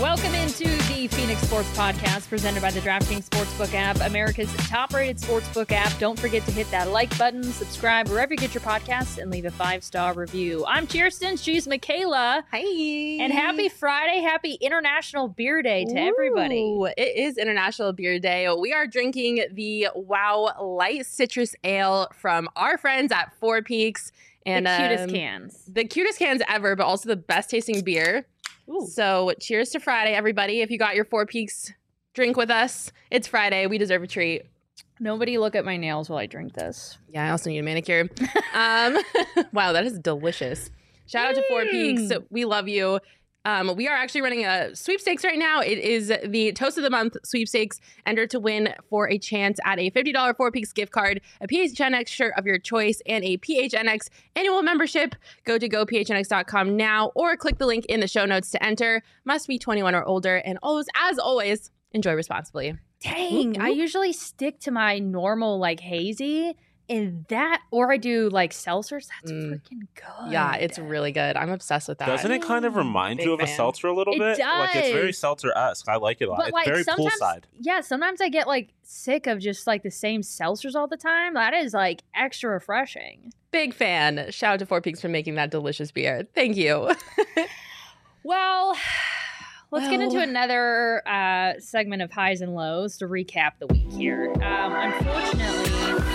Welcome into the Phoenix Sports Podcast presented by the DraftKings Sportsbook app, America's top-rated sportsbook app. Don't forget to hit that like button, subscribe wherever you get your podcasts, and leave a 5-star review. I'm Kirsten. She's Michaela. Hi. And happy Friday. Happy International Beer Day to everybody. It is International Beer Day. We are drinking the Wow Light Citrus Ale from our friends at Four Peaks. And the cutest cans. The cutest cans ever, but also the best tasting beer. Ooh. So cheers to Friday, everybody. If you got your Four Peaks drink with us, it's Friday. We deserve a treat. Nobody look at my nails while I drink this. Yeah, I also need a manicure. Wow, that is delicious. Shout out to Four Peaks. We love you. We are actually running a sweepstakes right now. It is the Toast of the Month sweepstakes. Enter to win for a chance at a $50 Four Peaks gift card, a PHNX shirt of your choice, and a PHNX annual membership. Go to gophnx.com now or click the link in the show notes to enter. Must be 21 or older. And as always, enjoy responsibly. Dang, I usually stick to my normal like hazy. And that, or I do like seltzers. That's freaking good. Yeah, it's really good. I'm obsessed with that. Doesn't it kind of remind you of a seltzer a little It bit? Like it's very does. seltzer-esque. I like it a lot. But It's like very sometimes, poolside. yeah, sometimes I get like sick of just like the same seltzers all the time. That is like extra refreshing. Big fan. Shout out to Four Peaks for making that delicious beer. Thank you. Well, let's get into another segment of highs and lows to recap the week here. Unfortunately,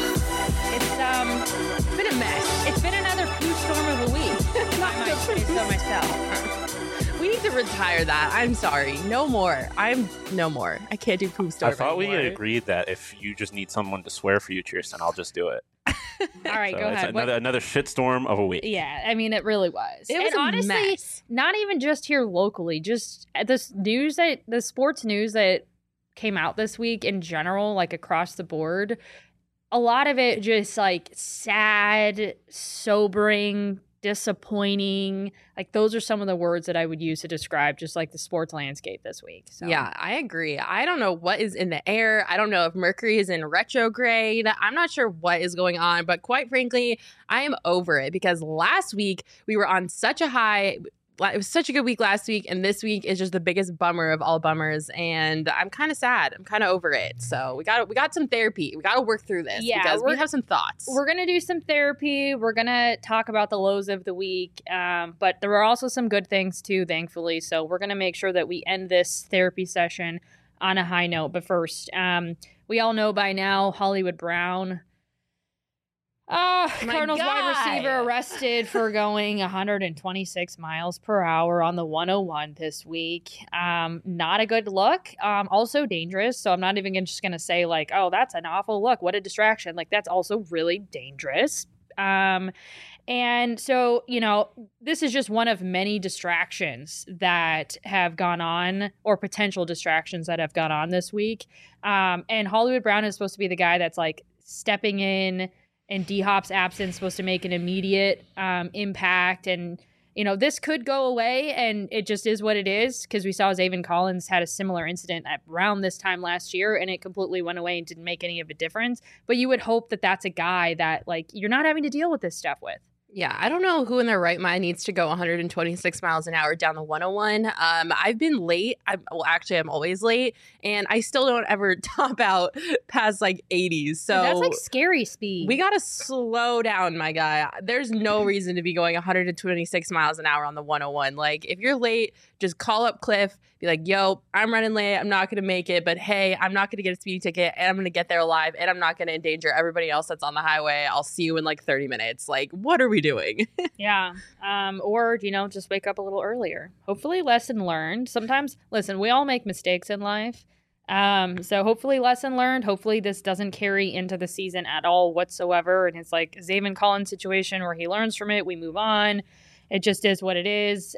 it's been a mess. It's been another poo storm of a week. I might say so myself. We need to retire that. I'm sorry. No more. No more. I can't do poop storm I thought we anymore. agreed that if you just need someone to swear for you, Kirsten, I'll just do it. All right, So go it's ahead. another shitstorm of a week. Yeah, I mean, it really was. It was and a honestly, mess. not even just here locally, just the sports news that came out this week in general, like across the board, a lot of it just like sad, sobering, disappointing. Like those are some of the words that I would use to describe just like the sports landscape this week. So. Yeah, I agree. I don't know what is in the air. I don't know if Mercury is in retrograde. I'm not sure what is going on, but quite frankly, I am over it because last week we were on such a high. It was such a good week last week, and this week is just the biggest bummer of all bummers, and I'm kind of sad. I'm kind of over it. So we got some therapy. We got to work through this because we have some thoughts. We're going to do some therapy. We're going to talk about the lows of the week, but there are also some good things too, thankfully. So we're going to make sure that we end this therapy session on a high note. But first, we all know by now Hollywood Brown, Cardinals wide receiver, arrested for going 126 miles per hour on the 101 this week. Not a good look. Also dangerous. So I'm not even just going to say like, oh, that's an awful look. What a distraction. Like that's also really dangerous. And so, you know, this is just one of many distractions that have gone on or potential distractions that have gone on this week. And Hollywood Brown is supposed to be the guy that's like stepping in, and D-Hop's absence supposed to make an immediate impact. And, you know, this could go away, and it just is what it is, because we saw Zaven Collins had a similar incident around this time last year, and it completely went away and didn't make any of a difference. But you would hope that that's a guy that, like, you're not having to deal with this stuff with. Yeah, I don't know who in their right mind needs to go 126 miles an hour down the 101. I've been late. I'm always late, and I still don't ever top out past like 80s. So That's like scary speed. we gotta slow down, my guy. There's no reason to be going 126 miles an hour on the 101. Like, if you're late, just call up Cliff. Be like, yo, I'm running late. I'm not going to make it. But hey, I'm not going to get a speeding ticket, and I'm going to get there alive, and I'm not going to endanger everybody else that's on the highway. I'll see you in like 30 minutes. Like, what are we doing? Yeah. Or, you know, just wake up a little earlier. Hopefully lesson learned. Sometimes, listen, we all make mistakes in life. So hopefully lesson learned. Hopefully this doesn't carry into the season at all whatsoever. And it's like Zaven Collins situation where he learns from it. We move on. It just is what it is.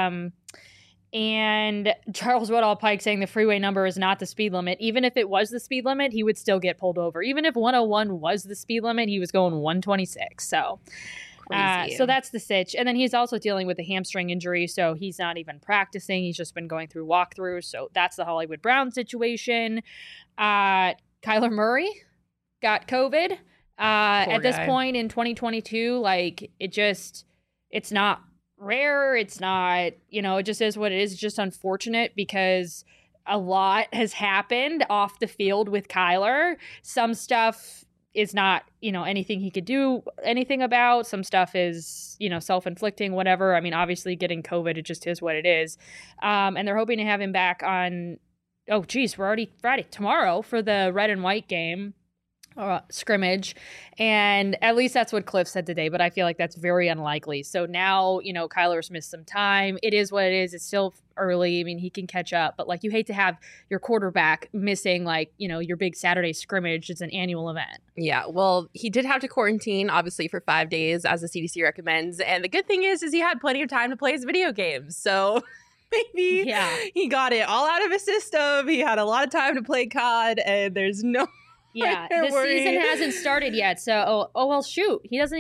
And Charles Woodall Pike saying the freeway number is not the speed limit. Even if it was the speed limit, he would still get pulled over. Even if 101 was the speed limit, he was going 126. So Crazy. so that's the sitch. And then he's also dealing with a hamstring injury, so he's not even practicing. He's just been going through walkthroughs. So that's the Hollywood Brown situation. Kyler Murray got COVID. At this guy. point in 2022, like it's not rare. It's not, it just is what it is. It's just unfortunate because a lot has happened off the field with Kyler. Some stuff is not, anything he could do anything about. Some stuff is, self-inflicting, whatever. I mean, obviously getting COVID, it just is what it is. And they're hoping to have him back on, we're already Friday, tomorrow for the red and white game. Scrimmage, and at least that's what Cliff said today, but I feel like that's very unlikely. So now, Kyler's missed some time. It is what it is. It's still early. I mean, he can catch up, but you hate to have your quarterback missing your big Saturday scrimmage. It's an annual event. Yeah, well, he did have to quarantine, obviously, for 5 days, as the CDC recommends. And the good thing is he had plenty of time to play his video games. So maybe he got it all out of his system. He had a lot of time to play COD, and there's no... Yeah, the season hasn't started yet, so well, shoot, he doesn't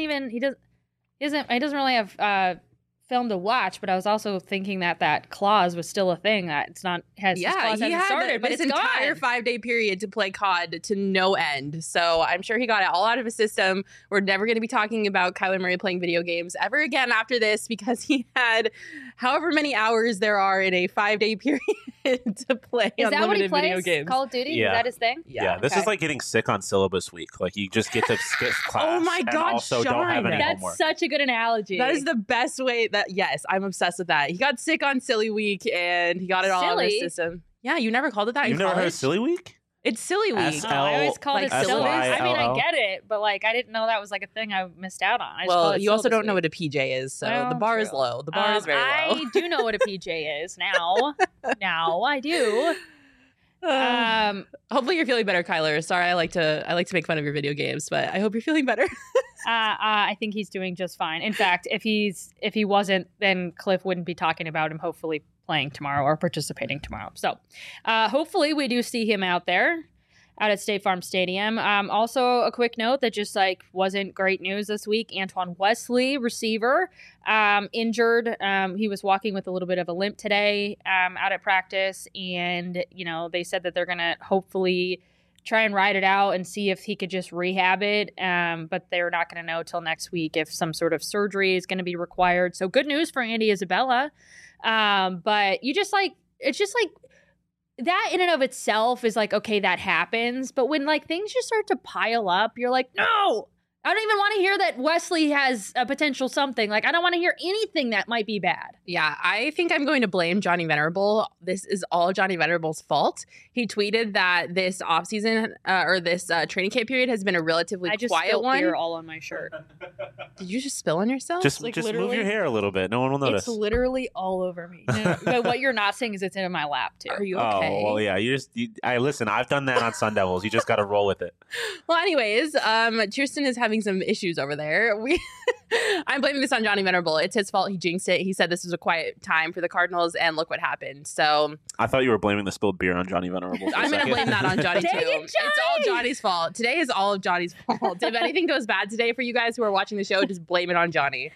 really have film to watch. But I was also thinking that clause was still a thing that it's not has. Yeah, clause hasn't started, but it's entire 5-day period to play COD to no end. So I'm sure he got it all out of his system. We're never going to be talking about Kyler Murray playing video games ever again after this because he had however many hours there are in a 5-day period to play unlimited video games. Call of Duty? Yeah. Is that his thing? Yeah, this is like getting sick on syllabus week. You just get to skip class. Oh my God, and also Sean, don't have any that's homework. Such a good analogy. That is the best way yes, I'm obsessed with that. He got sick on Silly Week and he got it all out of his system. Yeah, you never called it that You've in college? never heard of Silly Week? It's Silly Week. I always called it syllabus. I mean, I get it, but I didn't know that was a thing I missed out on. Well, you also don't know what a PJ is, so the bar is low. The bar is very low. I do know what a PJ is now. Now I do. Hopefully you're feeling better, Kyler. Sorry, I like to make fun of your video games, but I hope you're feeling better. I think he's doing just fine. In fact, if he wasn't, then Cliff wouldn't be talking about him hopefully playing tomorrow or participating tomorrow. So hopefully we do see him out at State Farm Stadium. Also, a quick note that just wasn't great news this week. Antoine Wesley, receiver, injured. He was walking with a little bit of a limp today out at practice, and they said that they're gonna hopefully try and ride it out and see if he could just rehab it. But they're not gonna know till next week if some sort of surgery is gonna be required. So good news for Andy Isabella. But you just it's just that in and of itself is okay, that happens. But when things just start to pile up, you're like, no, I don't even want to hear that Wesley has a potential something. I don't want to hear anything that might be bad. Yeah, I think I'm going to blame Johnny Venerable. This is all Johnny Venerable's fault. He tweeted that this offseason or this training camp period has been a relatively quiet one. I just spilled beer all on my shirt. Did you just spill on yourself? Just move your hair a little bit. No one will notice. It's literally all over me. No, but what you're not saying is it's in my lap too. Are you okay? Oh, well, yeah. Listen, I've done that on Sun Devils. You just got to roll with it. Well, anyways, Tristan is having some issues over there. I'm blaming this on Johnny Venerable. It's his fault. He jinxed it. He said this was a quiet time for the Cardinals, and look what happened. So I thought you were blaming the spilled beer on Johnny Venerable. I'm going to blame that on Johnny too. Dang it, Johnny! It's all Johnny's fault. Today is all of Johnny's fault. If anything goes bad today for you guys who are watching the show, just blame it on Johnny.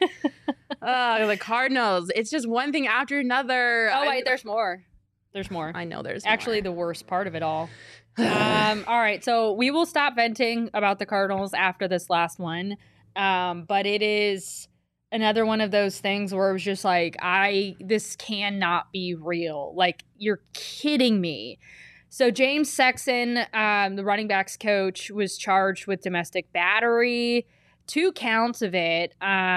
The Cardinals. It's just one thing after another. Oh, wait, there's more. There's more. I know there's actually more. The worst part of it all. All right, so we will stop venting about the Cardinals after this last one. But it is another one of those things where it was just this cannot be real. You're kidding me. So James Sexton, the running backs coach, was charged with domestic battery, 2 counts of it,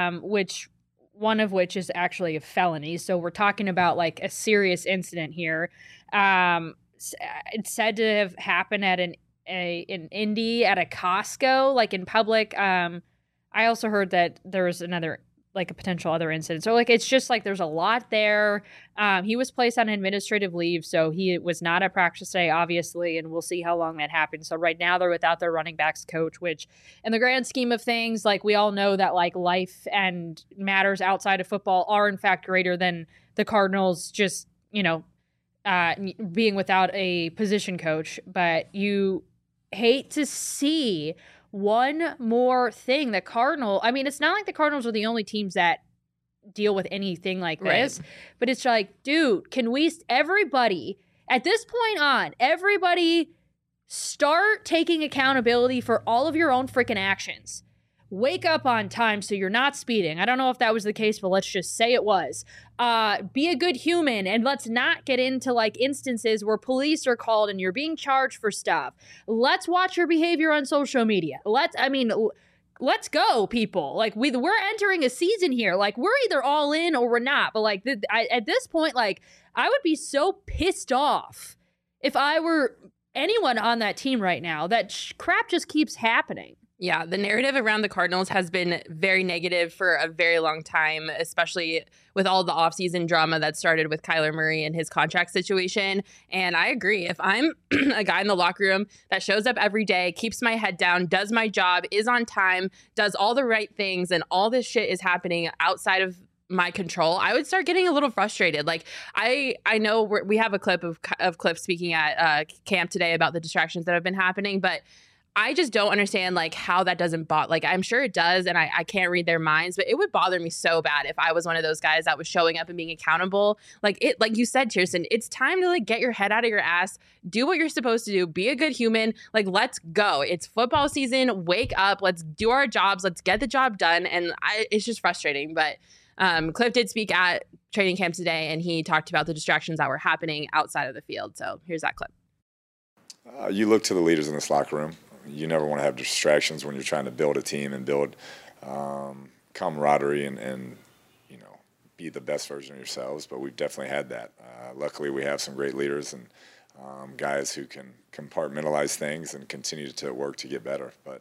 one of which is actually a felony. So we're talking about a serious incident here. It's said to have happened at an Indy at a Costco, in public. I also heard that there was another, a potential other incident. So, it's just there's a lot there. He was placed on administrative leave, so he was not at practice today, obviously, and we'll see how long that happens. So right now they're without their running backs coach, which in the grand scheme of things, we all know that life and matters outside of football are in fact greater than the Cardinals just, being without a position coach. But you hate to see one more thing. The Cardinal, it's not like the Cardinals are the only teams that deal with anything like this, right. But it's dude, can we, everybody, at this point on, everybody start taking accountability for all of your own freaking actions. wake up on time so you're not speeding. I don't know if that was the case, but let's just say it was. Be a good human, and let's not get into like instances where police are called and you're being charged for stuff. Let's watch your behavior on social media. Let's go, people. Like we're entering a season here. Like we're either all in or we're not. But like at this point, like I would be so pissed off if I were anyone on that team right now. That crap just keeps happening. Yeah, the narrative around the Cardinals has been very negative for a very long time, especially with all the offseason drama that started with Kyler Murray and his contract situation. And I agree. If I'm a guy in the locker room that shows up every day, keeps my head down, does my job, is on time, does all the right things, and all this shit is happening outside of my control, I would start getting a little frustrated. Like I know we have a clip of Cliff speaking at camp today about the distractions that have been happening, but I just don't understand like how that doesn't bother. Like I'm sure it does, and I can't read their minds, but it would bother me so bad if I was one of those guys that was showing up and being accountable. Like you said, Kirsten, it's time to like get your head out of your ass, do what you're supposed to do, be a good human. Like let's go. It's football season. Wake up. Let's do our jobs. Let's get the job done. And it's just frustrating. But Cliff did speak at training camp today, and he talked about the distractions that were happening outside of the field. So here's that clip. You look to the leaders in this locker room. You never want to have distractions when you're trying to build a team and build camaraderie and be the best version of yourselves. But we've definitely had that. Luckily, we have some great leaders and guys who can compartmentalize things and continue to work to get better. But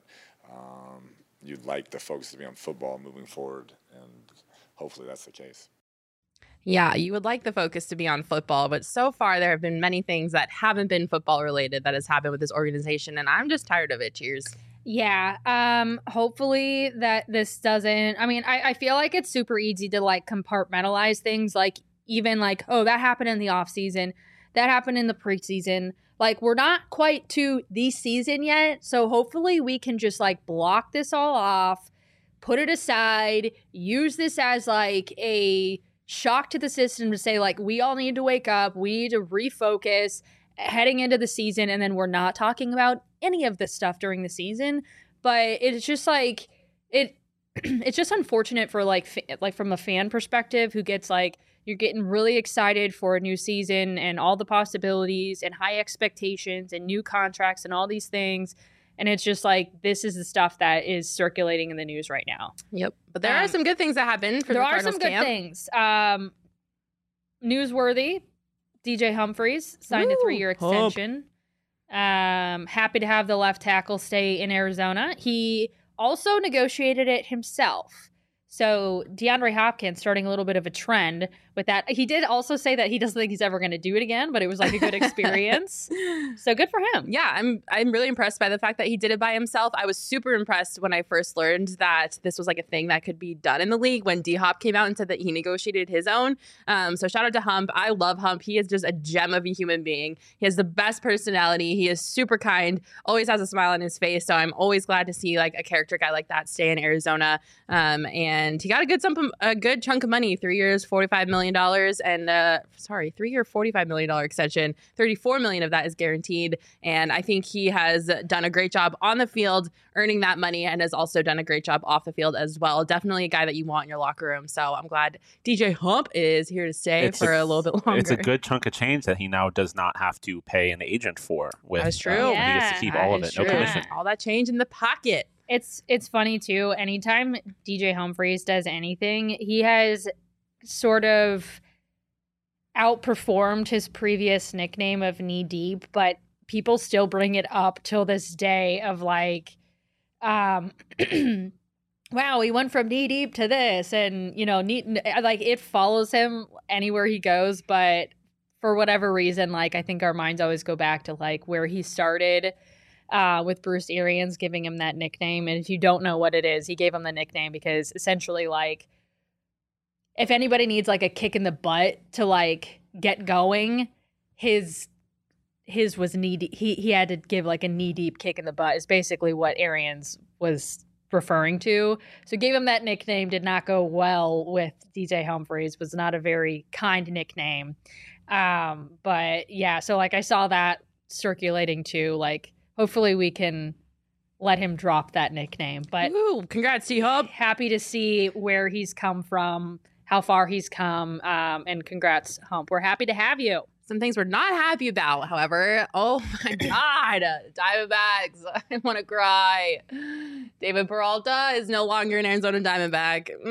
you'd like the focus to be on football moving forward, and hopefully that's the case. Yeah, you would like the focus to be on football, but so far there have been many things that haven't been football related that has happened with this organization, and I'm just tired of it. Cheers. Yeah. Hopefully that this doesn't. I mean, I feel like it's super easy to like compartmentalize things. Like even like, oh, that happened in the off season, that happened in the preseason. Like we're not quite to the season yet, so hopefully we can just like block this all off, put it aside, use this as like a shock to the system to say like we all need to wake up, we need to refocus heading into the season, and then we're not talking about any of this stuff during the season. But it's just like it's just unfortunate for like from a fan perspective who gets like you're getting really excited for a new season and all the possibilities and high expectations and new contracts and all these things. And it's just like, this is the stuff that is circulating in the news right now. Yep. But there are some good things that happen for the Cardinals camp. There are some good things. Newsworthy, DJ Humphries signed a 3-year extension. Happy to have the left tackle stay in Arizona. He also negotiated it himself. So DeAndre Hopkins starting a little bit of a trend with that. He did also say that he doesn't think he's ever going to do it again, but it was like a good experience. So good for him. Yeah, I'm really impressed by the fact that he did it by himself. I was super impressed when I first learned that this was like a thing that could be done in the league when D-Hop came out and said that he negotiated his own. So shout out to Hump. I love Hump. He is just a gem of a human being. He has the best personality. He is super kind, always has a smile on his face. So I'm always glad to see like a character guy like that stay in Arizona. And he got a good chunk of money, 3 years, $45 million, and 3-year, $45 million extension. $34 million of that is guaranteed. And I think he has done a great job on the field, earning that money, and has also done a great job off the field as well. Definitely a guy that you want in your locker room. So I'm glad DJ Hump is here to stay for a little bit longer. It's a good chunk of change that he now does not have to pay an agent for. That's true. He gets to keep all of it. True. No commission. All that change in the pocket. It's funny too. Anytime DJ Humphries does anything, he has sort of outperformed his previous nickname of Knee Deep, but people still bring it up till this day of like, wow, he went from knee deep to this, and like it follows him anywhere he goes. But for whatever reason, like I think our minds always go back to like where he started. With Bruce Arians giving him that nickname. And if you don't know what it is, he gave him the nickname because essentially like if anybody needs like a kick in the butt to like get going, his was knee deep. He had to give like a knee deep kick in the butt is basically what Arians was referring to. So gave him that nickname, did not go well with DJ Humphries, was not a very kind nickname. But yeah, so like I saw that circulating too, like hopefully we can let him drop that nickname. But Ooh, congrats, T-Hub. happy to see where he's come from, how far he's come, and congrats, Hump. We're happy to have you. Some things we're not happy about, however. Oh my God, Diamondbacks. I want to cry. David Peralta is no longer an Arizona Diamondback. Dude,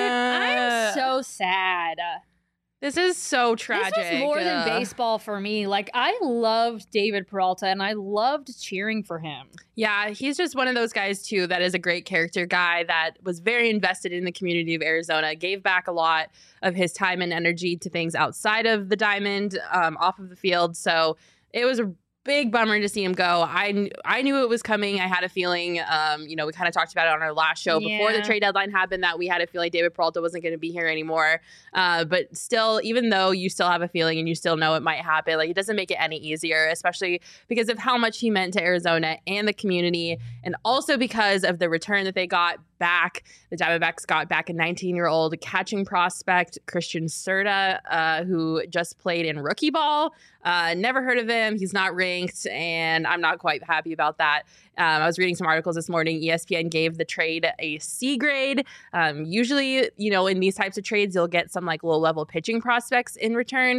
I'm so sad. This is so tragic. This was more than baseball for me. Like, I loved David Peralta, and I loved cheering for him. Yeah, he's just one of those guys, too, that is a great character guy that was very invested in the community of Arizona, gave back a lot of his time and energy to things outside of the diamond, off of the field. So it was a big bummer to see him go. I knew it was coming. I had a feeling, we kind of talked about it on our last show before the trade deadline happened, that we had a feeling David Peralta wasn't going to be here anymore. But still, even though you still have a feeling and you still know it might happen, like, it doesn't make it any easier, especially because of how much he meant to Arizona and the community, and also because of the return that they got back. The Diamondbacks got back a 19-year-old catching prospect, Christian Serta, who just played in rookie ball. Never heard of him. He's not ranked, and I'm not quite happy about that. I was reading some articles this morning. ESPN gave the trade a C grade. Usually, in these types of trades, you'll get some like low-level pitching prospects in return.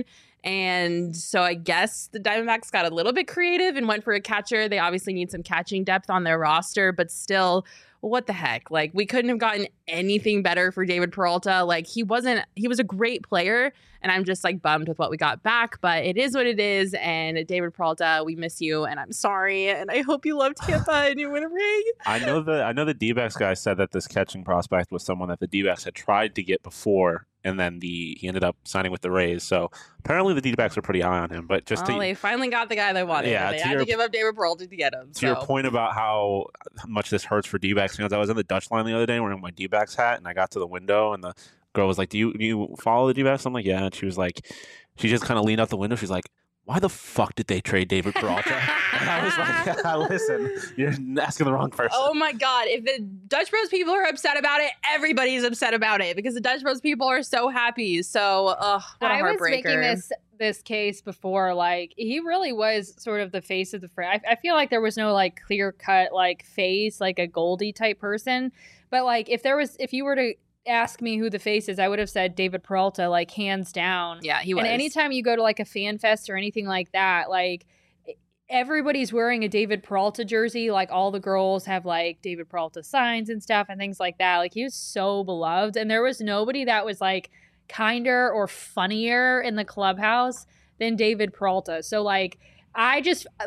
And so I guess the Diamondbacks got a little bit creative and went for a catcher. They obviously need some catching depth on their roster, but still, what the heck? Like, we couldn't have gotten anything better for David Peralta. Like, he was a great player, and I'm just like bummed with what we got back, but it is what it is. And David Peralta, we miss you, and I'm sorry, and I hope you love Tampa and you win a ring. I know the D-backs guy said that this catching prospect was someone that the D-backs had tried to get before, and then he ended up signing with the Rays. So apparently the D-backs were pretty high on him. But they finally got the guy they wanted. Yeah, they had to give up David Peralta to get him. To your point about how much this hurts for D-backs fans, I was in the Dutch line the other day wearing my D-backs hat, and I got to the window, and the girl was like, do you follow the D-backs? I'm like, yeah. And she was like, she just kind of leaned out the window. She's like, why the fuck did they trade David Peralta? And I was like, listen, you're asking the wrong person. Oh my God. If the Dutch Bros people are upset about it, everybody's upset about it, because the Dutch Bros people are so happy. So, what a heartbreaker. I was making this case before, like, he really was sort of the face of the franchise. I feel like there was no like clear cut like face, like a Goldie type person. But like, if you were to ask me who the face is, I would have said David Peralta, like, hands down. Yeah, he was. And anytime you go to like a fan fest or anything like that, like, everybody's wearing a David Peralta jersey. Like, all the girls have like David Peralta signs and stuff and things like that. Like, he was so beloved, and there was nobody that was like kinder or funnier in the clubhouse than David Peralta. So like, I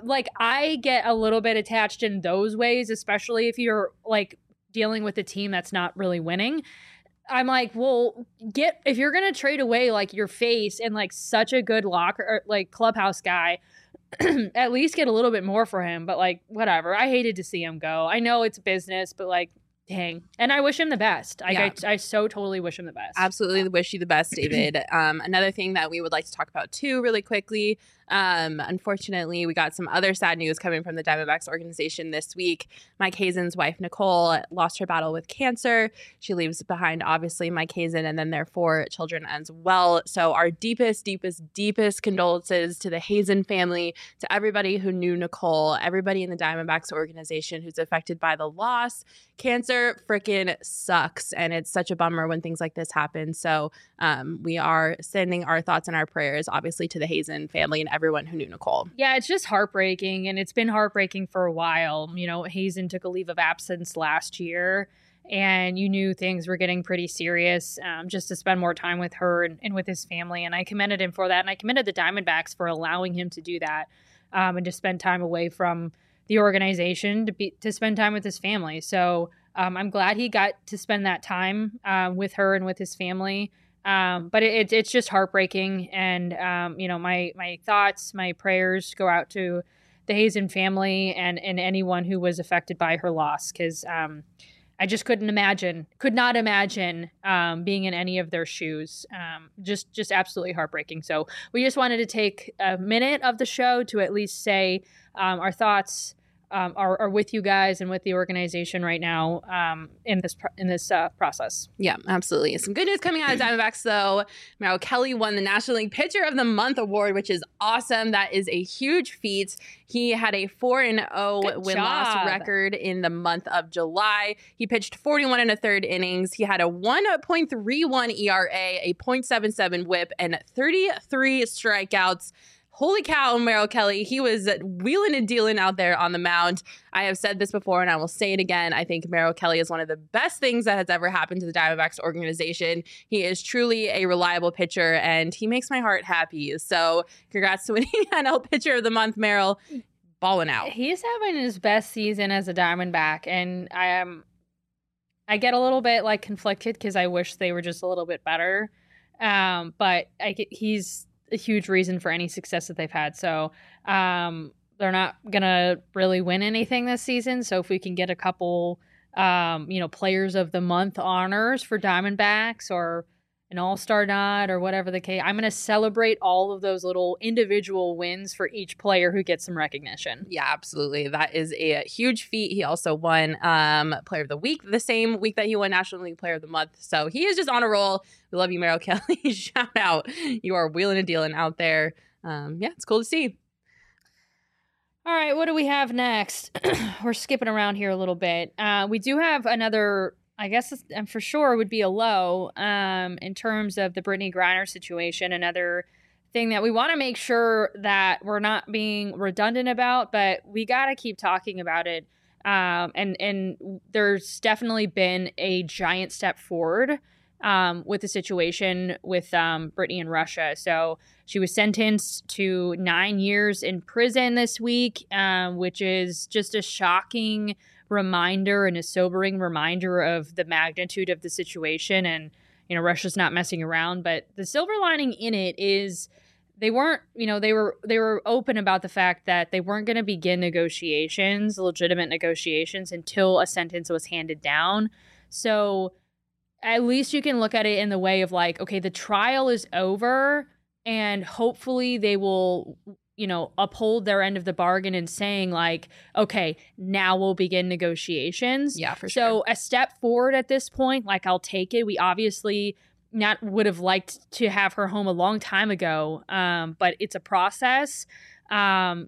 get a little bit attached in those ways, especially if you're like dealing with a team that's not really winning. I'm like, well, if you're going to trade away like your face and like such a good locker or like clubhouse guy, at least get a little bit more for him. But like, whatever. I hated to see him go. I know it's business, but like, dang. And I wish him the best. I so totally wish him the best. Absolutely wish you the best, David. Another thing that we would like to talk about too, really quickly. Unfortunately, we got some other sad news coming from the Diamondbacks organization this week. Mike Hazen's wife, Nicole, lost her battle with cancer. She leaves behind, obviously, Mike Hazen and then their 4 children as well. So our deepest condolences to the Hazen family, to everybody who knew Nicole, everybody in the Diamondbacks organization who's affected by the loss. Cancer freaking sucks, and it's such a bummer when things like this happen. So we are sending our thoughts and our prayers, obviously, to the Hazen family and everyone who knew Nicole. Yeah, it's just heartbreaking, and it's been heartbreaking for a while. You know, Hazen took a leave of absence last year, and you knew things were getting pretty serious, just to spend more time with her and with his family. And I commended him for that, and I commended the Diamondbacks for allowing him to do that, and to spend time away from the organization to spend time with his family. So I'm glad he got to spend that time with her and with his family. But it's just heartbreaking. And, my thoughts, my prayers go out to the Hazen family and anyone who was affected by her loss. Cause, I just could not imagine being in any of their shoes. Just absolutely heartbreaking. So we just wanted to take a minute of the show to at least say our thoughts are with you guys and with the organization right now in this process. Yeah, absolutely. Some good news coming out of Diamondbacks, though. Merrill Kelly won the National League Pitcher of the Month award, which is awesome. That is a huge feat. He had a 4-0 win-loss record in the month of July. He pitched 41 1/3 innings. He had a 1.31 ERA, a .77 WHIP, and 33 strikeouts. Holy cow, Merrill Kelly. He was wheeling and dealing out there on the mound. I have said this before, and I will say it again. I think Merrill Kelly is one of the best things that has ever happened to the Diamondbacks organization. He is truly a reliable pitcher, and he makes my heart happy. So congrats to winning NL Pitcher of the Month, Merrill. Balling out. He's having his best season as a Diamondback, and I get a little bit like conflicted because I wish they were just a little bit better. But he's a huge reason for any success that they've had. So they're not going to really win anything this season. So if we can get a couple, players of the month honors for Diamondbacks or an all-star nod or whatever the case, I'm going to celebrate all of those little individual wins for each player who gets some recognition. Yeah, absolutely. That is a huge feat. He also won Player of the Week the same week that he won National League Player of the Month. So he is just on a roll. We love you, Merrill Kelly. Shout out. You are wheeling and dealing out there. It's cool to see. All right, what do we have next? We're skipping around here a little bit. We do have another, I guess for sure would be a low in terms of the Brittany Griner situation. Another thing that we want to make sure that we're not being redundant about, but we got to keep talking about it. And there's definitely been a giant step forward with the situation with Brittany in Russia. So she was sentenced to 9 years in prison this week, which is just a shocking reminder and a sobering reminder of the magnitude of the situation. And, Russia's not messing around. But the silver lining in it is they weren't, they were open about the fact that they weren't going to begin negotiations, legitimate negotiations, until a sentence was handed down. So at least you can look at it in the way of like, okay, the trial is over and hopefully they will, uphold their end of the bargain and saying like, okay, now we'll begin negotiations. Yeah, for sure. So a step forward at this point, like I'll take it. We obviously not would have liked to have her home a long time ago, but it's a process. And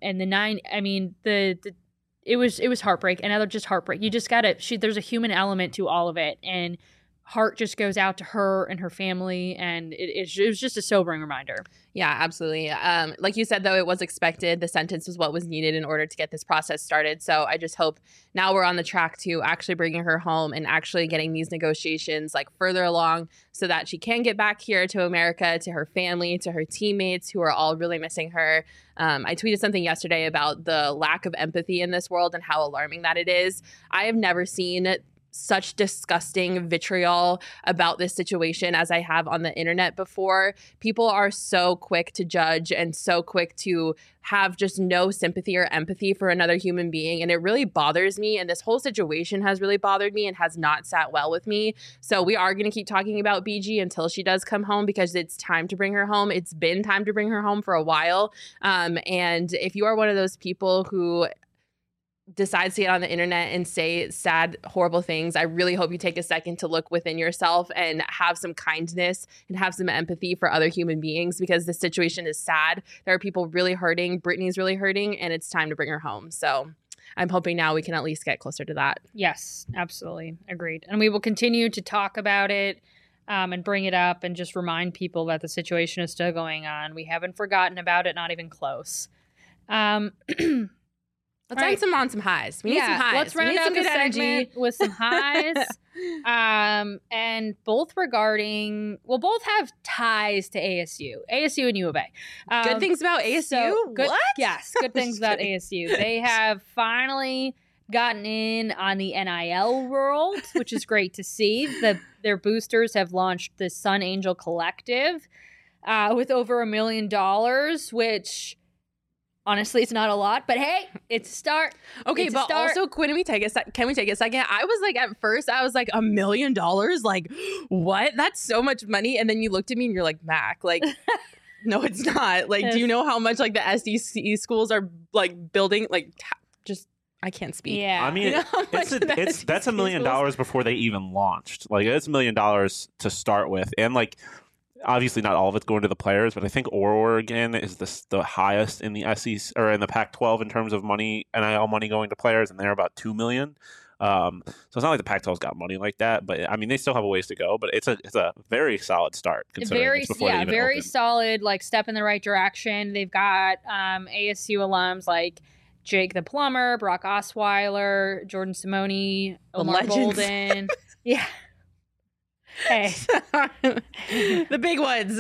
it was heartbreak, another just heartbreak. You just gotta, there's a human element to all of it, and heart just goes out to her and her family, and it was just a sobering reminder. Yeah, absolutely. Like you said, though, it was expected. The sentence was what was needed in order to get this process started. So I just hope now we're on the track to actually bringing her home and actually getting these negotiations like further along so that she can get back here to America, to her family, to her teammates who are all really missing her. I tweeted something yesterday about the lack of empathy in this world and how alarming that it is. I have never seen such disgusting vitriol about this situation as I have on the internet before. People are so quick to judge and so quick to have just no sympathy or empathy for another human being. And it really bothers me. And this whole situation has really bothered me and has not sat well with me. So we are going to keep talking about BG until she does come home, because it's time to bring her home. It's been time to bring her home for a while. And if you are one of those people who decides to get on the internet and say sad, horrible things, I really hope you take a second to look within yourself and have some kindness and have some empathy for other human beings, because the situation is sad. There are people really hurting. Brittany's really hurting, and it's time to bring her home. So I'm hoping now we can at least get closer to that. Yes, absolutely. Agreed. And we will continue to talk about it and bring it up and just remind people that the situation is still going on. We haven't forgotten about it, not even close. Let's end on some highs. We need some highs. Let's round out the segment with some highs. And both both have ties to ASU and U of A. Good things about ASU? What? Yes, good things about ASU. They have finally gotten in on the NIL world, which is great to see. Their boosters have launched the Sun Angel Collective with over $1 million, which... honestly, it's not a lot, but hey, it's a start. Okay, but also, can we take a second? I was like, at first, I was like, $1 million? Like, what? That's so much money. And then you looked at me and you're like, Mac, like, no, it's not. Like, do you know how much like the SEC schools are like building? Like, just I can't speak. Yeah. I mean, You know how much that's $1 million before they even launched. Like, it's $1 million to start with, and like, obviously not all of it's going to the players, but I think Oregon is the highest in the SEC or in the Pac-12 in terms of money, NIL money going to players, and they're about $2 million. So it's not like the Pac-12's got money like that, but I mean, they still have a ways to go. But it's a very solid start considering it's before they even very open. solid, like step in the right direction. They've got ASU alums like Jake the Plumber, Brock Osweiler, Jordan Simone, Omar legends. Bolden. Yeah. Hey. The big ones.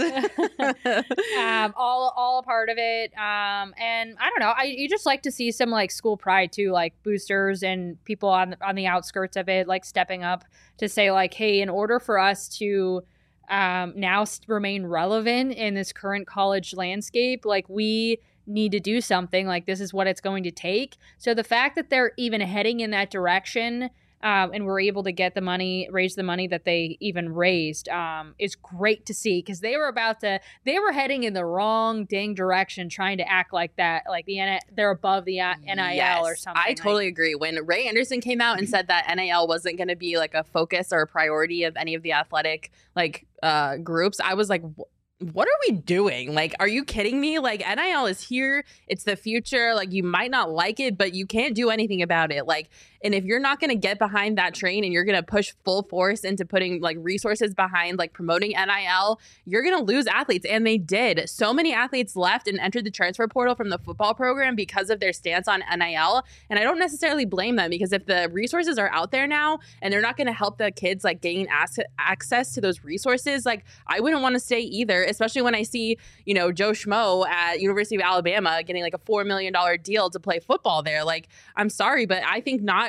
all a part of it. And I don't know. You just like to see some like school pride too, like boosters and people on the outskirts of it, like stepping up to say like, hey, in order for us to now remain relevant in this current college landscape, like we need to do something. Like this is what it's going to take. So the fact that they're even heading in that direction. And we're able to get raise the money that they even raised, is great to see because they were heading in the wrong dang direction, trying to act like that, like they're above the NIL or something. I totally agree. When Ray Anderson came out and said that NIL wasn't going to be like a focus or a priority of any of the athletic like groups, I was like, what are we doing? Like, are you kidding me? Like, NIL is here. It's the future. Like, you might not like it, but you can't do anything about it. Like, and if you're not going to get behind that train and you're going to push full force into putting like resources behind like promoting NIL, you're going to lose athletes. And they did. So many athletes left and entered the transfer portal from the football program because of their stance on NIL. And I don't necessarily blame them because if the resources are out there now and they're not going to help the kids like gain access to those resources, like I wouldn't want to stay either, especially when I see, you know, Joe Schmo at University of Alabama getting like a $4 million deal to play football there. Like, I'm sorry, but I think not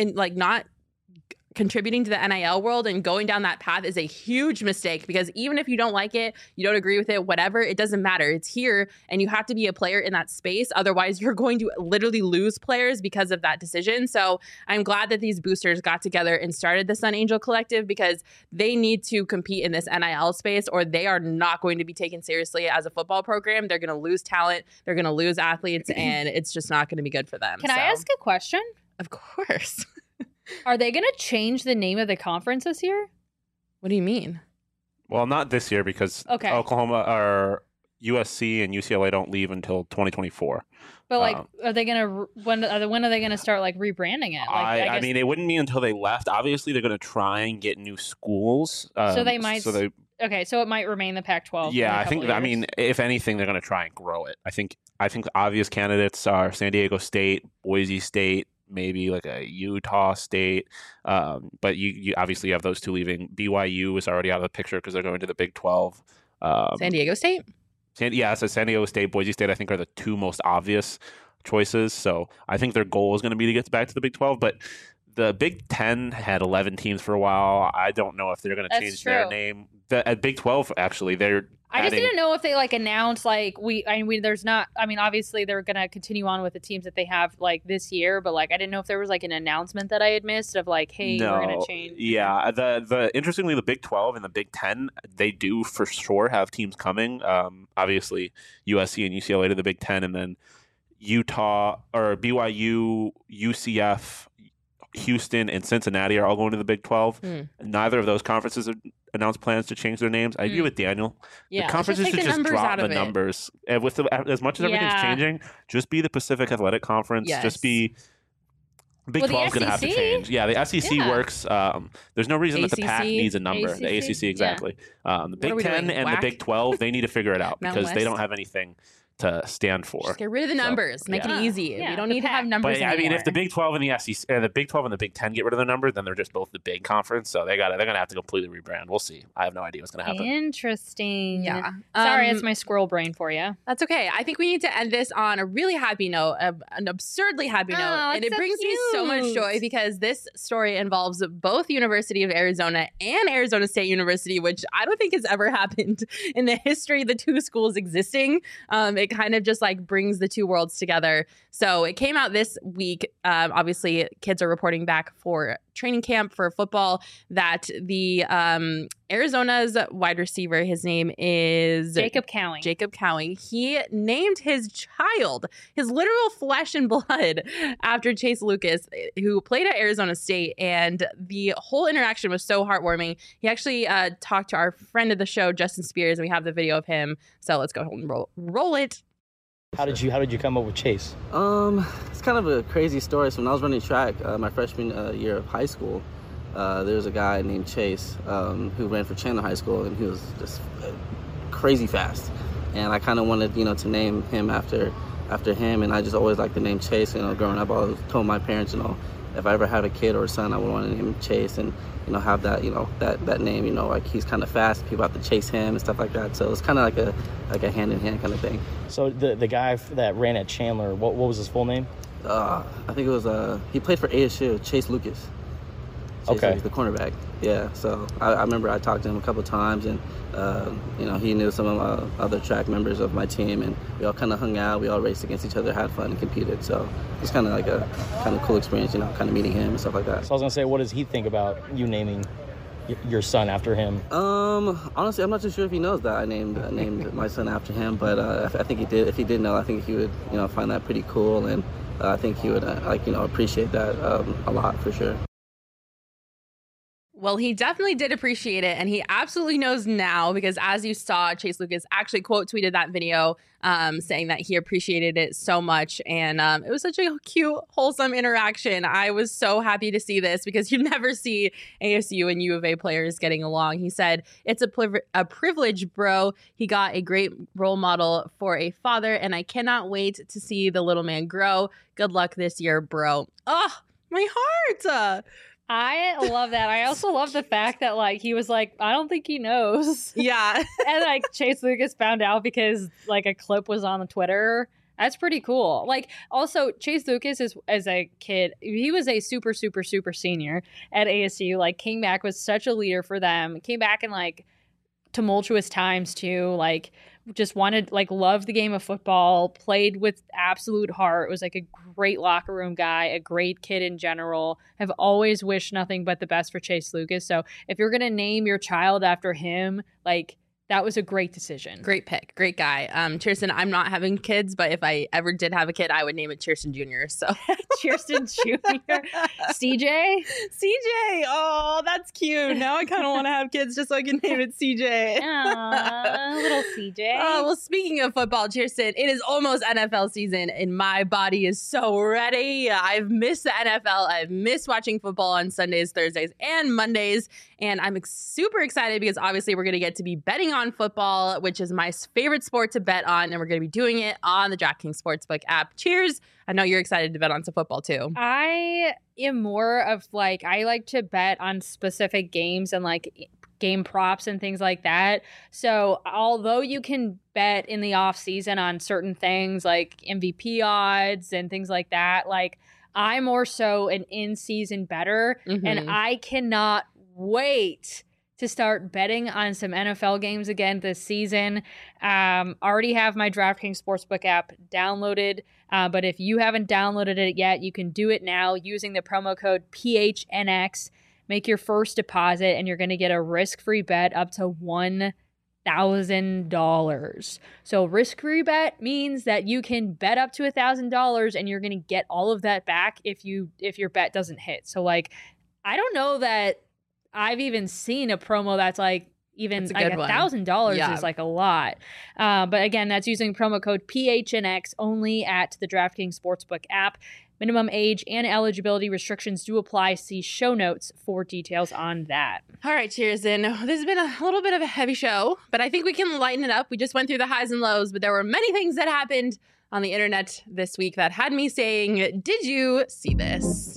contributing to the NIL world and going down that path is a huge mistake because even if you don't like it, you don't agree with it, whatever, it doesn't matter. It's here and you have to be a player in that space. Otherwise, you're going to literally lose players because of that decision. So I'm glad that these boosters got together and started the Sun Angel Collective because they need to compete in this NIL space or they are not going to be taken seriously as a football program. They're going to lose talent. They're going to lose athletes and it's just not going to be good for them. Can I ask a question? Of course. Are they going to change the name of the conference this year? What do you mean? Well, not this year because Okay. Oklahoma or USC and UCLA don't leave until 2024. But like, are they going to when are they going to start like rebranding it? Like, I mean, it wouldn't be until they left. Obviously, they're going to try and get new schools. So they might. Okay, so it might remain the Pac-12. Yeah, for a I think. couple I years. mean, if anything, they're going to try and grow it. I think obvious candidates are San Diego State, Boise State, maybe like a Utah State. But you obviously have those two leaving. BYU is already out of the picture because they're going to the Big 12. San Diego State? So San Diego State, Boise State, I think are the two most obvious choices. So I think their goal is going to be to get back to the Big 12. But the Big 10 had 11 teams for a while. I don't know if they're going to change their name. At Big 12, actually, I just didn't know if they like announced like there's not. I mean, obviously they're gonna continue on with the teams that they have like this year, but like I didn't know if there was like an announcement that I had missed of like, hey, we're gonna change. Yeah, the interestingly, the Big 12 and the Big 10, they do for sure have teams coming. Obviously USC and UCLA to the Big 10, and then Utah or BYU, UCF, Houston, and Cincinnati are all going to the Big 12. Neither of those conferences have announced plans to change their names. I agree with Daniel. Yeah, the conferences should just drop the numbers. And with as much as everything's changing, just be the Pacific Athletic Conference. Yes. Just be. Big 12 is going to have to change. Yeah, the SEC works. There's no reason that the Pac needs a number. The ACC, exactly. The Big 10 and the Big 12, they need to figure it out because they don't have anything to stand for. Just get rid of the numbers. Make it easy. We don't need to have numbers anymore. I mean, if the Big 12 and the SEC, the Big 12 and the Big 10 get rid of the numbers, then they're just both the big conference. So they're gonna have to completely rebrand. We'll see. I have no idea what's gonna happen. Interesting. Yeah. Sorry, it's my squirrel brain for you. That's okay. I think we need to end this on a really happy note, an absurdly happy note. And it brings me so much joy because this story involves both University of Arizona and Arizona State University, which I don't think has ever happened in the history of the two schools existing. It kind of just like brings the two worlds together. So it came out this week. Obviously, kids are reporting back for training camp for football that the Arizona's wide receiver, his name is Jacob Cowie. Jacob Cowie. He named his child, his literal flesh and blood, after Chase Lucas, who played at Arizona State. And the whole interaction was so heartwarming. He actually talked to our friend of the show, Justin Spears, and we have the video of him. So let's go and roll it. How did you come up with Chase? It's kind of a crazy story. So when I was running track my freshman year of high school, there was a guy named Chase who ran for Chandler High School, and he was just crazy fast. And I kind of wanted, to name him after him. And I just always liked the name Chase. Growing up, I always told my parents, if I ever had a kid or a son, I would want to name him Chase and, have that, that name, like he's kind of fast. People have to chase him and stuff like that. So it's kind of like a hand-in-hand kind of thing. So the guy that ran at Chandler, what was his full name? I think it was, he played for ASU, Chase Lucas. Okay. Lucas, the cornerback. Yeah, so I remember I talked to him a couple times, and, he knew some of other track members of my team, and we all kind of hung out. We all raced against each other, had fun, and competed. So it was kind of like a kind of cool experience, kind of meeting him and stuff like that. So I was going to say, what does he think about you naming your son after him? Honestly, I'm not too sure if he knows that I named my son after him, but I think he did. If he did know, I think he would, find that pretty cool, and I think he would, appreciate that a lot for sure. Well, he definitely did appreciate it, and he absolutely knows now because, as you saw, Chase Lucas actually quote tweeted that video saying that he appreciated it so much, and it was such a cute, wholesome interaction. I was so happy to see this because you never see ASU and U of A players getting along. He said, "It's a privilege, bro. He got a great role model for a father, and I cannot wait to see the little man grow. Good luck this year, bro." Oh, my heart! I love that. I also love the fact that he was like, I don't think he knows. Yeah. And Chase Lucas found out because a clip was on the Twitter. That's pretty cool. Also Chase Lucas is, as a kid, he was a super, super, super senior at ASU. Came back, was such a leader for them. Came back in tumultuous times too. Just wanted, loved the game of football, played with absolute heart, was a great locker room guy, a great kid in general. I've always wished nothing but the best for Chase Lucas. So if you're going to name your child after him, that was a great decision. Great pick. Great guy. Cheerson, I'm not having kids, but if I ever did have a kid, I would name it Cheerson Jr. So Cheerson Jr. CJ? CJ. Oh, that's cute. Now I kind of want to have kids just so I can name it CJ. Aww, little CJ. Oh, well, speaking of football, Cheerson, it is almost NFL season and my body is so ready. I've missed the NFL. I've missed watching football on Sundays, Thursdays, and Mondays. And I'm super excited because obviously we're going to get to be betting on football, which is my favorite sport to bet on. And we're going to be doing it on the DraftKings Sportsbook app. Cheers. I know you're excited to bet on some football too. I am more of I like to bet on specific games and game props and things like that. So although you can bet in the off season on certain things like MVP odds and things like that, I'm more so an in-season bettor, and I cannot wait to start betting on some NFL games again this season. Already have my DraftKings Sportsbook app downloaded, but if you haven't downloaded it yet, you can do it now using the promo code PHNX. Make your first deposit, and you're going to get a risk-free bet up to $1,000. So risk-free bet means that you can bet up to $1,000, and you're going to get all of that back if your bet doesn't hit. So I don't know that I've even seen a promo that's even $1,000 is a lot. But again, that's using promo code PHNX only at the DraftKings Sportsbook app. Minimum age and eligibility restrictions do apply. See show notes for details on that. All right, cheers. And this has been a little bit of a heavy show, but I think we can lighten it up. We just went through the highs and lows, but there were many things that happened on the internet this week that had me saying, did you see this?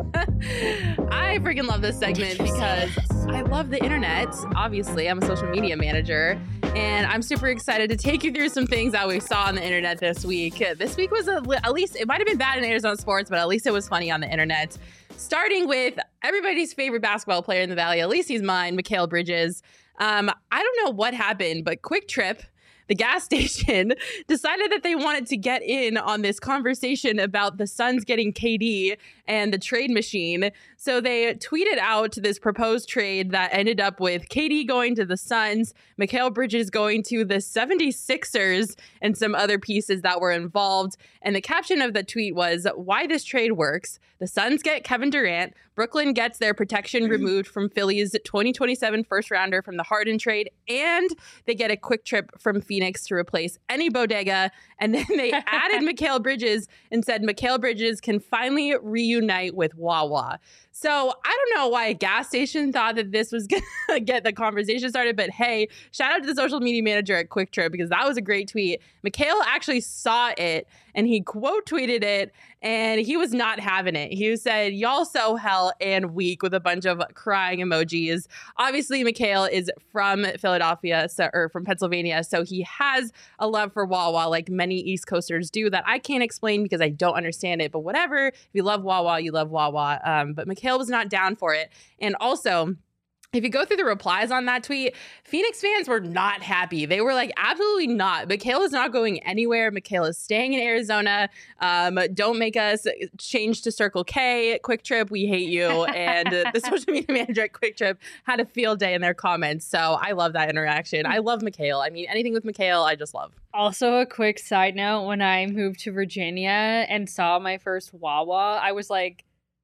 I freaking love this segment because I love the internet. Obviously, I'm a social media manager, and I'm super excited to take you through some things that we saw on the internet this week. This week was at least, it might have been bad in Arizona sports, but at least it was funny on the internet. Starting with everybody's favorite basketball player in the Valley, at least he's mine, Mikal Bridges. I don't know what happened, but Quick Trip the gas station decided that they wanted to get in on this conversation about the Suns getting KD and the trade machine. So they tweeted out this proposed trade that ended up with KD going to the Suns, Mikal Bridges going to the 76ers, and some other pieces that were involved. And the caption of the tweet was, "Why this trade works. The Suns get Kevin Durant. Brooklyn gets their protection removed from Philly's 2027 first rounder from the Harden trade, and they get a quick trip from Phoenix to replace any bodega." And then they added Mikal Bridges and said Mikal Bridges can finally reunite with Wawa. So I don't know why a gas station thought that this was going to get the conversation started, but hey, shout out to the social media manager at Quick Trip, because that was a great tweet. Mikal actually saw it and he quote tweeted it, and he was not having it. He said, "Y'all so hell and weak," with a bunch of crying emojis. Obviously, Mikal is from Philadelphia, or from Pennsylvania, so he has a love for Wawa like many East Coasters do that I can't explain because I don't understand it. But whatever, if you love Wawa, you love Wawa. But Mikal was not down for it. And also, if you go through the replies on that tweet, Phoenix fans were not happy. They were like, absolutely not. Mikal is not going anywhere. Mikal is staying in Arizona. Don't make us change to Circle K. Quick Trip, we hate you. And the social media manager at Quick Trip had a field day in their comments. So I love that interaction. I love Mikal. I mean, anything with Mikal, I just love. Also, a quick side note, when I moved to Virginia and saw my first Wawa, I was like,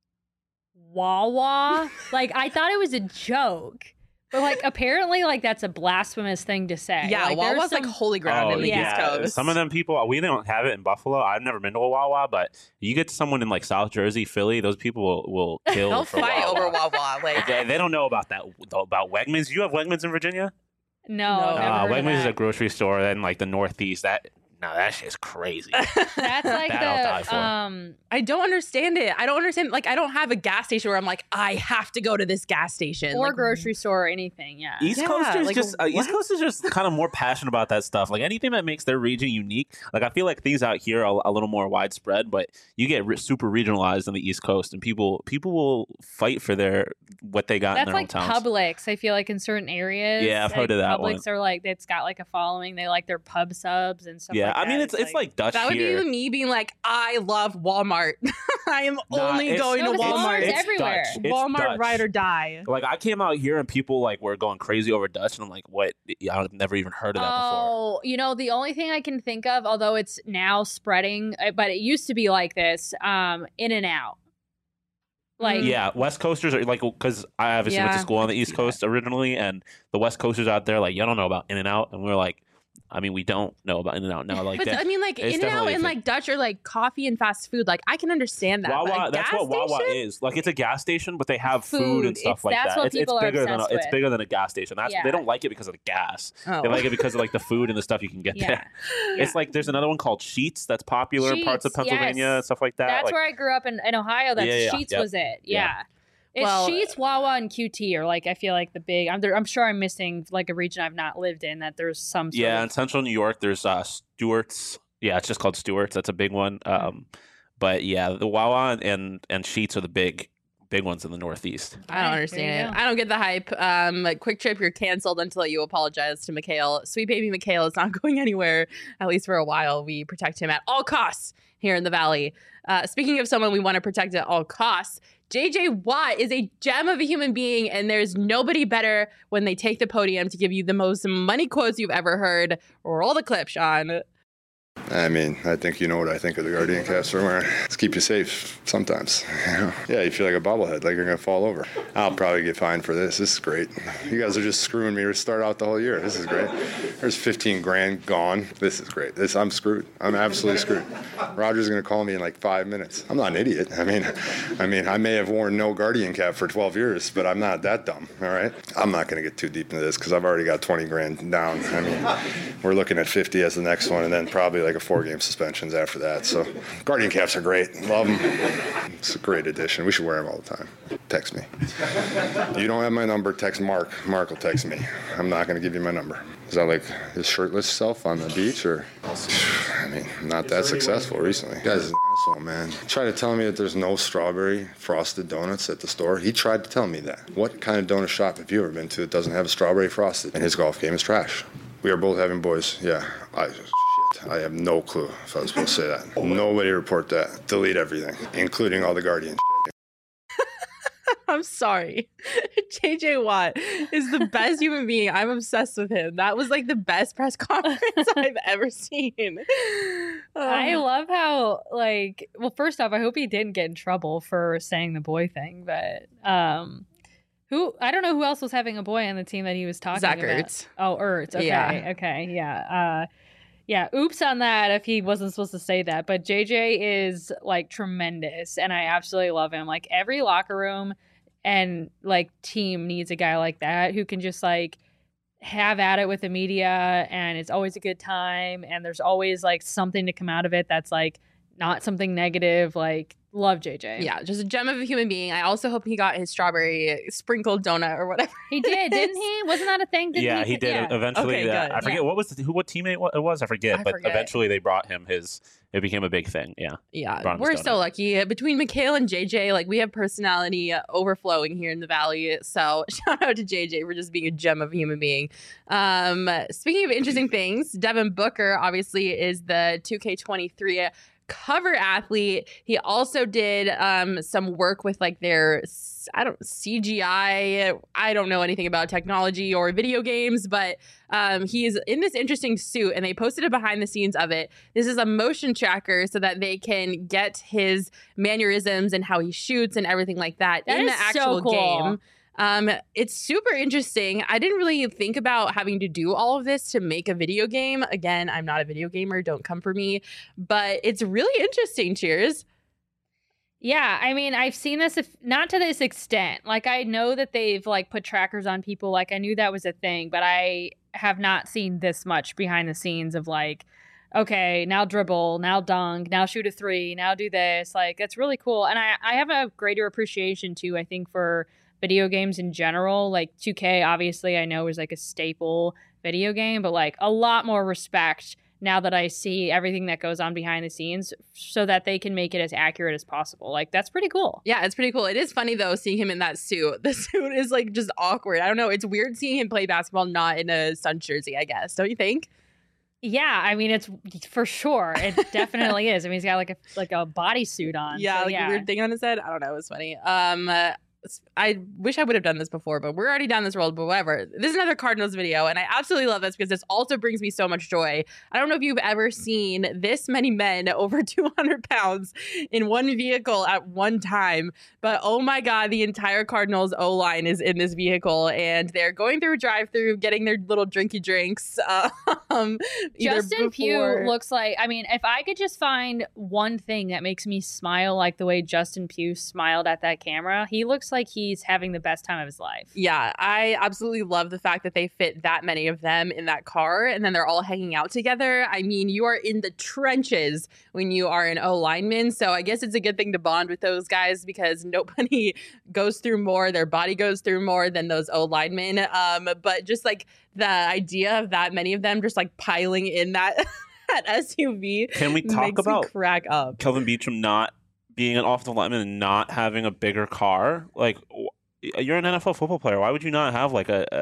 Wawa? Like, I thought it was a joke. But, like, apparently, like, that's a blasphemous thing to say. Yeah, like, Wawa's like holy ground in the East Coast. Some of them people, we don't have it in Buffalo. I've never been to a Wawa, but you get to someone in, like, South Jersey, Philly, those people will kill They'll for fight Wawa. over Wawa. Like, they don't know about that, about Wegmans. You have Wegmans in Virginia? No, I've never heard of Wegmans is that. a grocery store in, like, the Northeast. That shit's crazy. That's like That I'll die for. I don't understand it. I don't understand. Like, I don't have a gas station where I'm like, I have to go to this gas station. Or like, grocery store or anything, yeah. East Coasters like, East Coasters just kind of more passionate about that stuff. Like anything that makes their region unique. Like I feel like things out here are a little more widespread, but you get super regionalized on the East Coast, and people will fight for what they got That's in their like own towns. Publix. I feel like in certain areas. Yeah, I've heard of that one. Publix are like, it's got like a following. They like their pub subs and stuff Yeah, like that. I mean it's like Dutch that would here. be me being like, I love Walmart. I am only it's- going to No, but Walmart. Walmart's It's everywhere. Dutch. It's Walmart, Dutch. ride or die. Like I came out here and people like were going crazy over Dutch, and I'm like, what? I've never even heard of that before. Oh, you know, the only thing I can think of, although it's now spreading, but it used to be like this, In-N-Out. Like, Yeah, West Coasters are like, because I obviously went to Yeah, school on I the can East see Coast originally, and the West Coasters out there, like, you don't know about In-N-Out, and we're like, I mean, we don't know about In-N-Out now. Like But that. I mean, like, it's In-N-Out definitely a and thing. like Dutch are like coffee and fast food. Like, I can understand that. but Wawa, a that's gas what Wawa station? is. Like it's a gas station, but they have food Food. and stuff It's- like that's that. what It's people are bigger than obsessed it's with. bigger than a gas station. That's Yeah. They don't like it because of the gas. Oh. They like it because of like the food and the stuff you can get yeah. there. It's like there's another one called Sheets that's popular in parts of Sheetz, Pennsylvania yes. and stuff like that. That's like, where I grew up in Ohio. That's Yeah, Sheetz yep. was it. Yeah. It's Well, Sheetz, Wawa, and QT are like, I feel like the big. I'm sure I'm missing like a region I've not lived in that there's some sort yeah, of in central New York, there's Stewart's. Yeah, it's just called Stewart's. That's a big one. But yeah, the Wawa and Sheets are the big ones in the Northeast. I don't There understand you it. go. I don't get the hype. Like, Quick Trip, you're canceled until you apologize to Mikal. Sweet baby Mikal is not going anywhere, at least for a while. We protect him at all costs here in the Valley. Speaking of someone we want to protect at all costs, JJ Watt is a gem of a human being, and there's nobody better when they take the podium to give you the most money quotes you've ever heard. Roll the clip, Sean. I mean, I think you know what I think of the Guardian caps we're wearing. It's keep you safe sometimes. You know? Yeah, you feel like a bobblehead, like you're going to fall over. I'll probably get fined for this. This is great. You guys are just screwing me to start out the whole year. This is great. There's 15 grand gone. This is great. I'm screwed. I'm absolutely screwed. Roger's going to call me in like 5 minutes. I'm not an idiot. I mean, I may have worn no Guardian cap for 12 years, but I'm not that dumb, all right? I'm not going to get too deep into this because I've already got 20 grand down. I mean, we're looking at 50 as the next one, and then probably like a 4-game suspensions after that. So Guardian caps are great. Love them. It's a great addition. We should wear them all the time. Text me. You don't have my number, text Mark. Mark will text me. I'm not going to give you my number. Is that like his shirtless self on the beach, or? I mean, not that successful recently. This guy's an asshole, man. He tried to tell me that there's no strawberry frosted donuts at the store. He tried to tell me that. What kind of donut shop have you ever been to that doesn't have a strawberry frosted? And his golf game is trash. We are both having boys. Yeah. I have no clue if I was supposed to say that. Nobody report that. Delete everything, including all the Guardian shit. I'm sorry. JJ Watt is the best human being. I'm obsessed with him. That was like the best press conference I've ever seen. I love how, like, well, first off, I hope he didn't get in trouble for saying the boy thing, but I don't know who else was having a boy on the team that he was talking Zach about. Ertz. Oh, Ertz. Okay. Yeah. Okay. Yeah. Yeah. Oops on that if he wasn't supposed to say that. But JJ is like tremendous and I absolutely love him. Like every locker room and like team needs a guy like that who can just like have at it with the media and it's always a good time and there's always like something to come out of it that's like not something negative. Like, love JJ. Yeah, just a gem of a human being. I also hope he got his strawberry sprinkled donut or whatever. He did, didn't he? Wasn't that a thing? Yeah, he did. Yeah. Eventually, Okay, good. I forget what teammate it was. I forget, but eventually they brought him his. It became a big thing. Yeah. Yeah, we're so lucky. Between Mikhail and JJ, like we have personality overflowing here in the Valley. So shout out to JJ for just being a gem of a human being. Speaking of interesting things, Devin Booker obviously is the 2K23 cover athlete. He also did some work with like their CGI. I don't know anything about technology or video games, but he's in this interesting suit and they posted a behind the scenes of it. This is a motion tracker so that they can get his mannerisms and how he shoots and everything like that in the actual game. It's super interesting. I didn't really think about having to do all of this to make a video game. Again, I'm not a video gamer. Don't come for me. But it's really interesting. Cheers. Yeah, I mean, I've seen this, not to this extent. Like, I know that they've, like, put trackers on people. Like, I knew that was a thing. But I have not seen this much behind the scenes of, like, okay, now dribble, now dunk, now shoot a three, now do this. Like, it's really cool. And I have a greater appreciation, too, I think, for video games in general. Like 2K obviously I know is like a staple video game, but like a lot more respect now that I see everything that goes on behind the scenes so that they can make it as accurate as possible. Like that's pretty cool. Yeah, it's pretty cool. It is funny though seeing him in that suit. The suit is like just awkward. I don't know. It's weird seeing him play basketball not in a Suns jersey, I guess. Don't you think? Yeah, I mean it's for sure. It definitely is. I mean he's got like a bodysuit on. Yeah, so, like a weird thing on his head. I don't know. It was funny. I wish I would have done this before, but we're already down this road, but whatever. This is another Cardinals video, and I absolutely love this because this also brings me so much joy. I don't know if you've ever seen this many men over 200 pounds in one vehicle at one time, but oh my God, the entire Cardinals O-line is in this vehicle, and they're going through a drive-through, getting their little drinky drinks. Justin Pugh looks like, I mean, if I could just find one thing that makes me smile like the way Justin Pugh smiled at that camera, he looks like he's having the best time of his life. Yeah, I absolutely love the fact that they fit that many of them in that car and then they're all hanging out together. I mean, you are in the trenches when you are an O lineman. So I guess it's a good thing to bond with those guys because nobody goes through more, their body goes through more than those O linemen. But just like the idea of that many of them just like piling in that SUV. Can we talk about crack up? Kelvin Beachum not being an offensive lineman and not having a bigger car? Like, you're an NFL football player. Why would you not have like a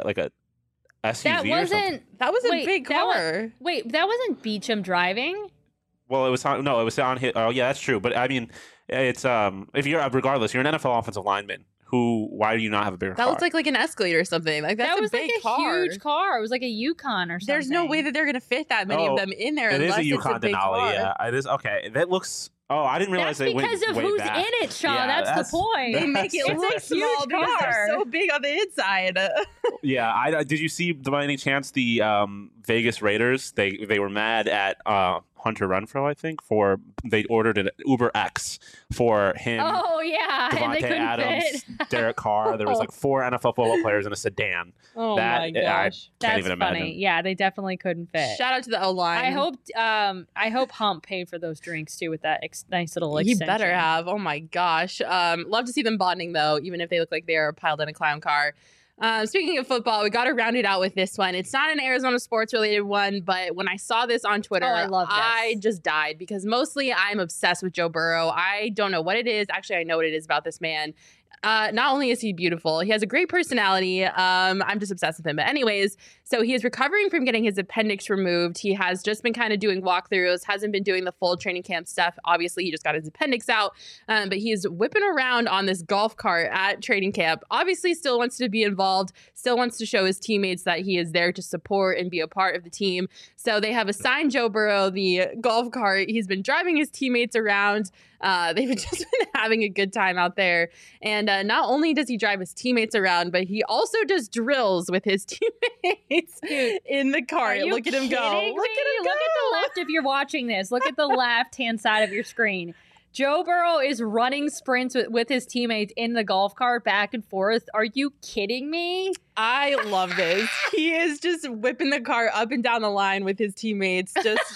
SUV or something? That was a big car. That wasn't Beachum driving? Well, it was on his. Oh, yeah, that's true. But I mean, it's if you're regardless, you're an NFL offensive lineman. Why do you not have a bigger car? That was like an Escalade or something. Like that was a big like a car. huge car. It was like a Yukon or something. There's no way that they're gonna fit that many of them in there. It is a Yukon Denali. car. Yeah, it is. Okay, that looks. Oh, I didn't realize that's because of who's back. in it, Shaw. Yeah, that's the point. They make it look small because they're so big on the inside. Yeah, did you see by any chance the Vegas Raiders? They were mad at Hunter Renfrow, I think, for they ordered an Uber X for him. Oh yeah, Devontae Adams, Derek Carr. There was like 4 NFL football players in a sedan. Oh my gosh, can't that's even funny. imagine. Yeah, they definitely couldn't fit. Shout out to the O line. I hope Hump paid for those drinks too with that nice little extension. He better have. Oh my gosh. Love to see them bonding though, even if they look like they are piled in a clown car. Speaking of football, we got to round it out with this one. It's not an Arizona sports related one, but when I saw this on Twitter, I just died because mostly I'm obsessed with Joe Burrow. I don't know what it is. Actually, I know what it is about this man. Not only is he beautiful, he has a great personality. I'm just obsessed with him. But anyways, So he is recovering from getting his appendix removed. He has just been kind of doing walkthroughs, hasn't been doing the full training camp stuff. Obviously, he just got his appendix out, but he is whipping around on this golf cart at training camp. Obviously, still wants to be involved, still wants to show his teammates that he is there to support and be a part of the team. So they have assigned Joe Burrow the golf cart. He's been driving his teammates around. They've just been having a good time out there. And not only does he drive his teammates around, but he also does drills with his teammates in the cart. Look at him go. Look at him go. Look at the left if you're watching this. Look at the left-hand side of your screen. Joe Burrow is running sprints with his teammates in the golf cart back and forth. Are you kidding me? I love this. He is just whipping the cart up and down the line with his teammates. Just...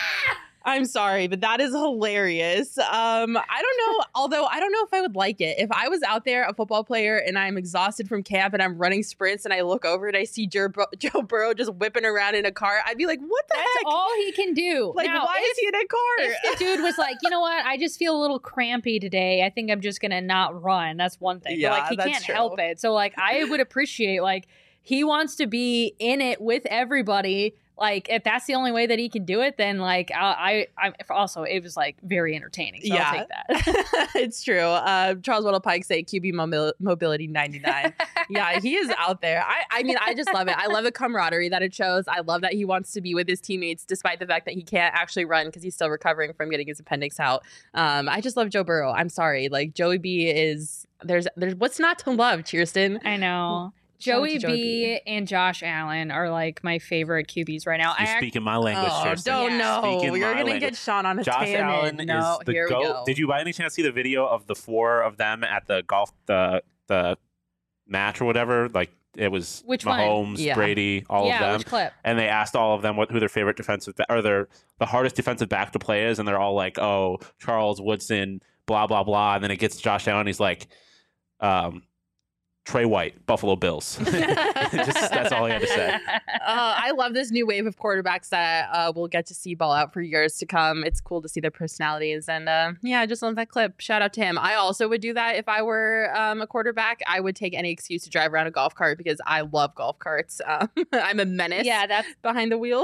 I'm sorry, but that is hilarious. I don't know, although I don't know if I would like it. If I was out there, a football player, and I'm exhausted from camp and I'm running sprints and I look over and I see Joe Burrow just whipping around in a car, I'd be like, what the heck? That's all he can do. Like, now, why is he in a car? If the dude was like, you know what, I just feel a little crampy today. I think I'm just going to not run. That's one thing. Yeah, but like, he that's can't true. help it. So like, I would appreciate, like, he wants to be in it with everybody. Like, if that's the only way that he can do it, then like I also, it was like very entertaining. So I'll take that. It's true. Charles Weddle Pike say QB mobility 99. Yeah, he is out there. I mean, I just love it. I love the camaraderie that it shows. I love that he wants to be with his teammates despite the fact that he can't actually run because he's still recovering from getting his appendix out. I just love Joe Burrow. I'm sorry. Like, Joey B is, there's what's not to love, Kirsten? I know. Joey B and Josh Allen are like my favorite QBs right now. You're speaking my language, Kirsten. Don't know. Speaking You're my going to language. get Sean on a Josh tangent. Allen No, is the here we GOAT. go. Did you by any chance see the video of the four of them at the golf the match or whatever? Like, it was Which one? Mahomes, Yeah. Brady, all of them. Which clip? And they asked all of them who their favorite defensive or the hardest defensive back to play is, and they're all like, "Oh, Charles Woodson, blah blah blah." And then it gets to Josh Allen, he's like, Trey White, Buffalo Bills. That's all he had to say. I love this new wave of quarterbacks that we'll get to see ball out for years to come. It's cool to see their personalities. And I just love that clip. Shout out to him. I also would do that if I were a quarterback. I would take any excuse to drive around a golf cart because I love golf carts. I'm a menace behind the wheel.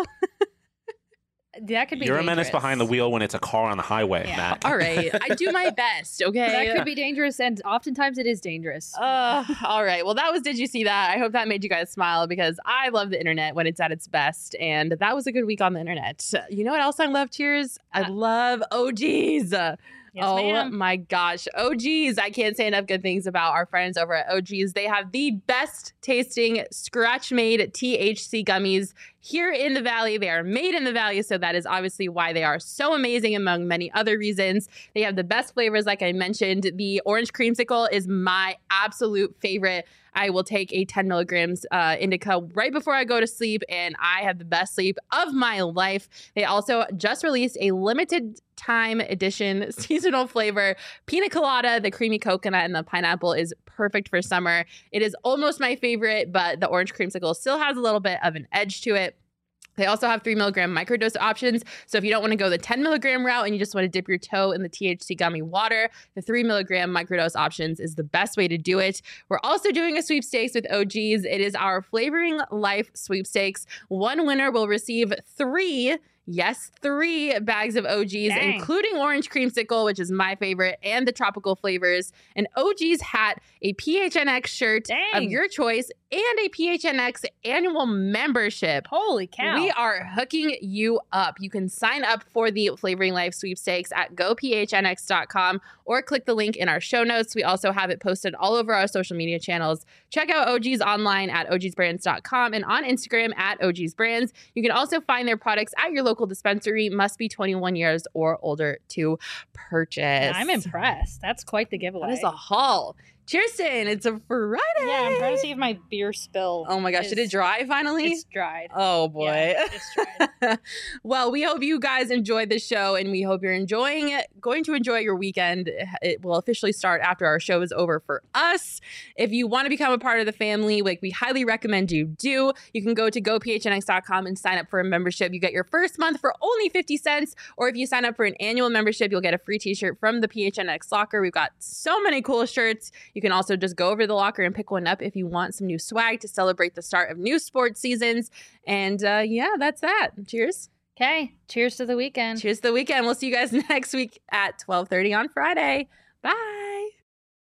That could be You're dangerous. a menace behind the wheel when it's a car on the highway, Matt. All right. I do my best, okay? That could be dangerous, and oftentimes it is dangerous. All right. Well, that was Did You See That? I hope that made you guys smile because I love the internet when it's at its best. And that was a good week on the internet. You know what else I love, Cheers? I love OGs. Ma'am. My gosh. OGs. I can't say enough good things about our friends over at OGs. They have the best tasting scratch-made THC gummies here in the Valley. They are made in the Valley, so that is obviously why they are so amazing among many other reasons. They have the best flavors, like I mentioned. The orange creamsicle is my absolute favorite. I will take a 10 milligrams indica right before I go to sleep, and I have the best sleep of my life. They also just released a limited time edition seasonal flavor. Pina colada, the creamy coconut, and the pineapple is perfect for summer. It is almost my favorite, but the orange creamsicle still has a little bit of an edge to it. They also have 3 milligram microdose options. So if you don't want to go the 10 milligram route and you just want to dip your toe in the THC gummy water, the 3 milligram microdose options is the best way to do it. We're also doing a sweepstakes with OGs. It is our Flavoring Life sweepstakes. One winner will receive 3 bags of OGs, including orange creamsicle, which is my favorite, and the tropical flavors, an OGs hat, a PHNX shirt of your choice, and a PHNX annual membership. Holy cow. We are hooking you up. You can sign up for the Flavoring Life sweepstakes at gophnx.com or click the link in our show notes. We also have it posted all over our social media channels. Check out OGs online at ogsbrands.com and on Instagram at ogsbrands. You can also find their products at your local dispensary. Must be 21 years or older to purchase. I'm impressed. That's quite the giveaway. That is a haul. Kirsten, it's a Friday. Yeah, I'm trying to see if my beer spill. Oh my gosh, did it dry finally? It's dried. Oh boy. Yeah, it's dried. Well, we hope you guys enjoyed the show and we hope you're enjoying it. Going to enjoy your weekend. It will officially start after our show is over for us. If you want to become a part of the family, like we highly recommend you do, you can go to gophnx.com and sign up for a membership. You get your first month for only 50 cents. Or if you sign up for an annual membership, you'll get a free t-shirt from the PHNX locker. We've got so many cool shirts. You can also just go over to the locker and pick one up if you want some new swag to celebrate the start of new sports seasons. And yeah, that's that. Cheers. Okay. Cheers to the weekend. Cheers to the weekend. We'll see you guys next week at 12:30 on Friday. Bye.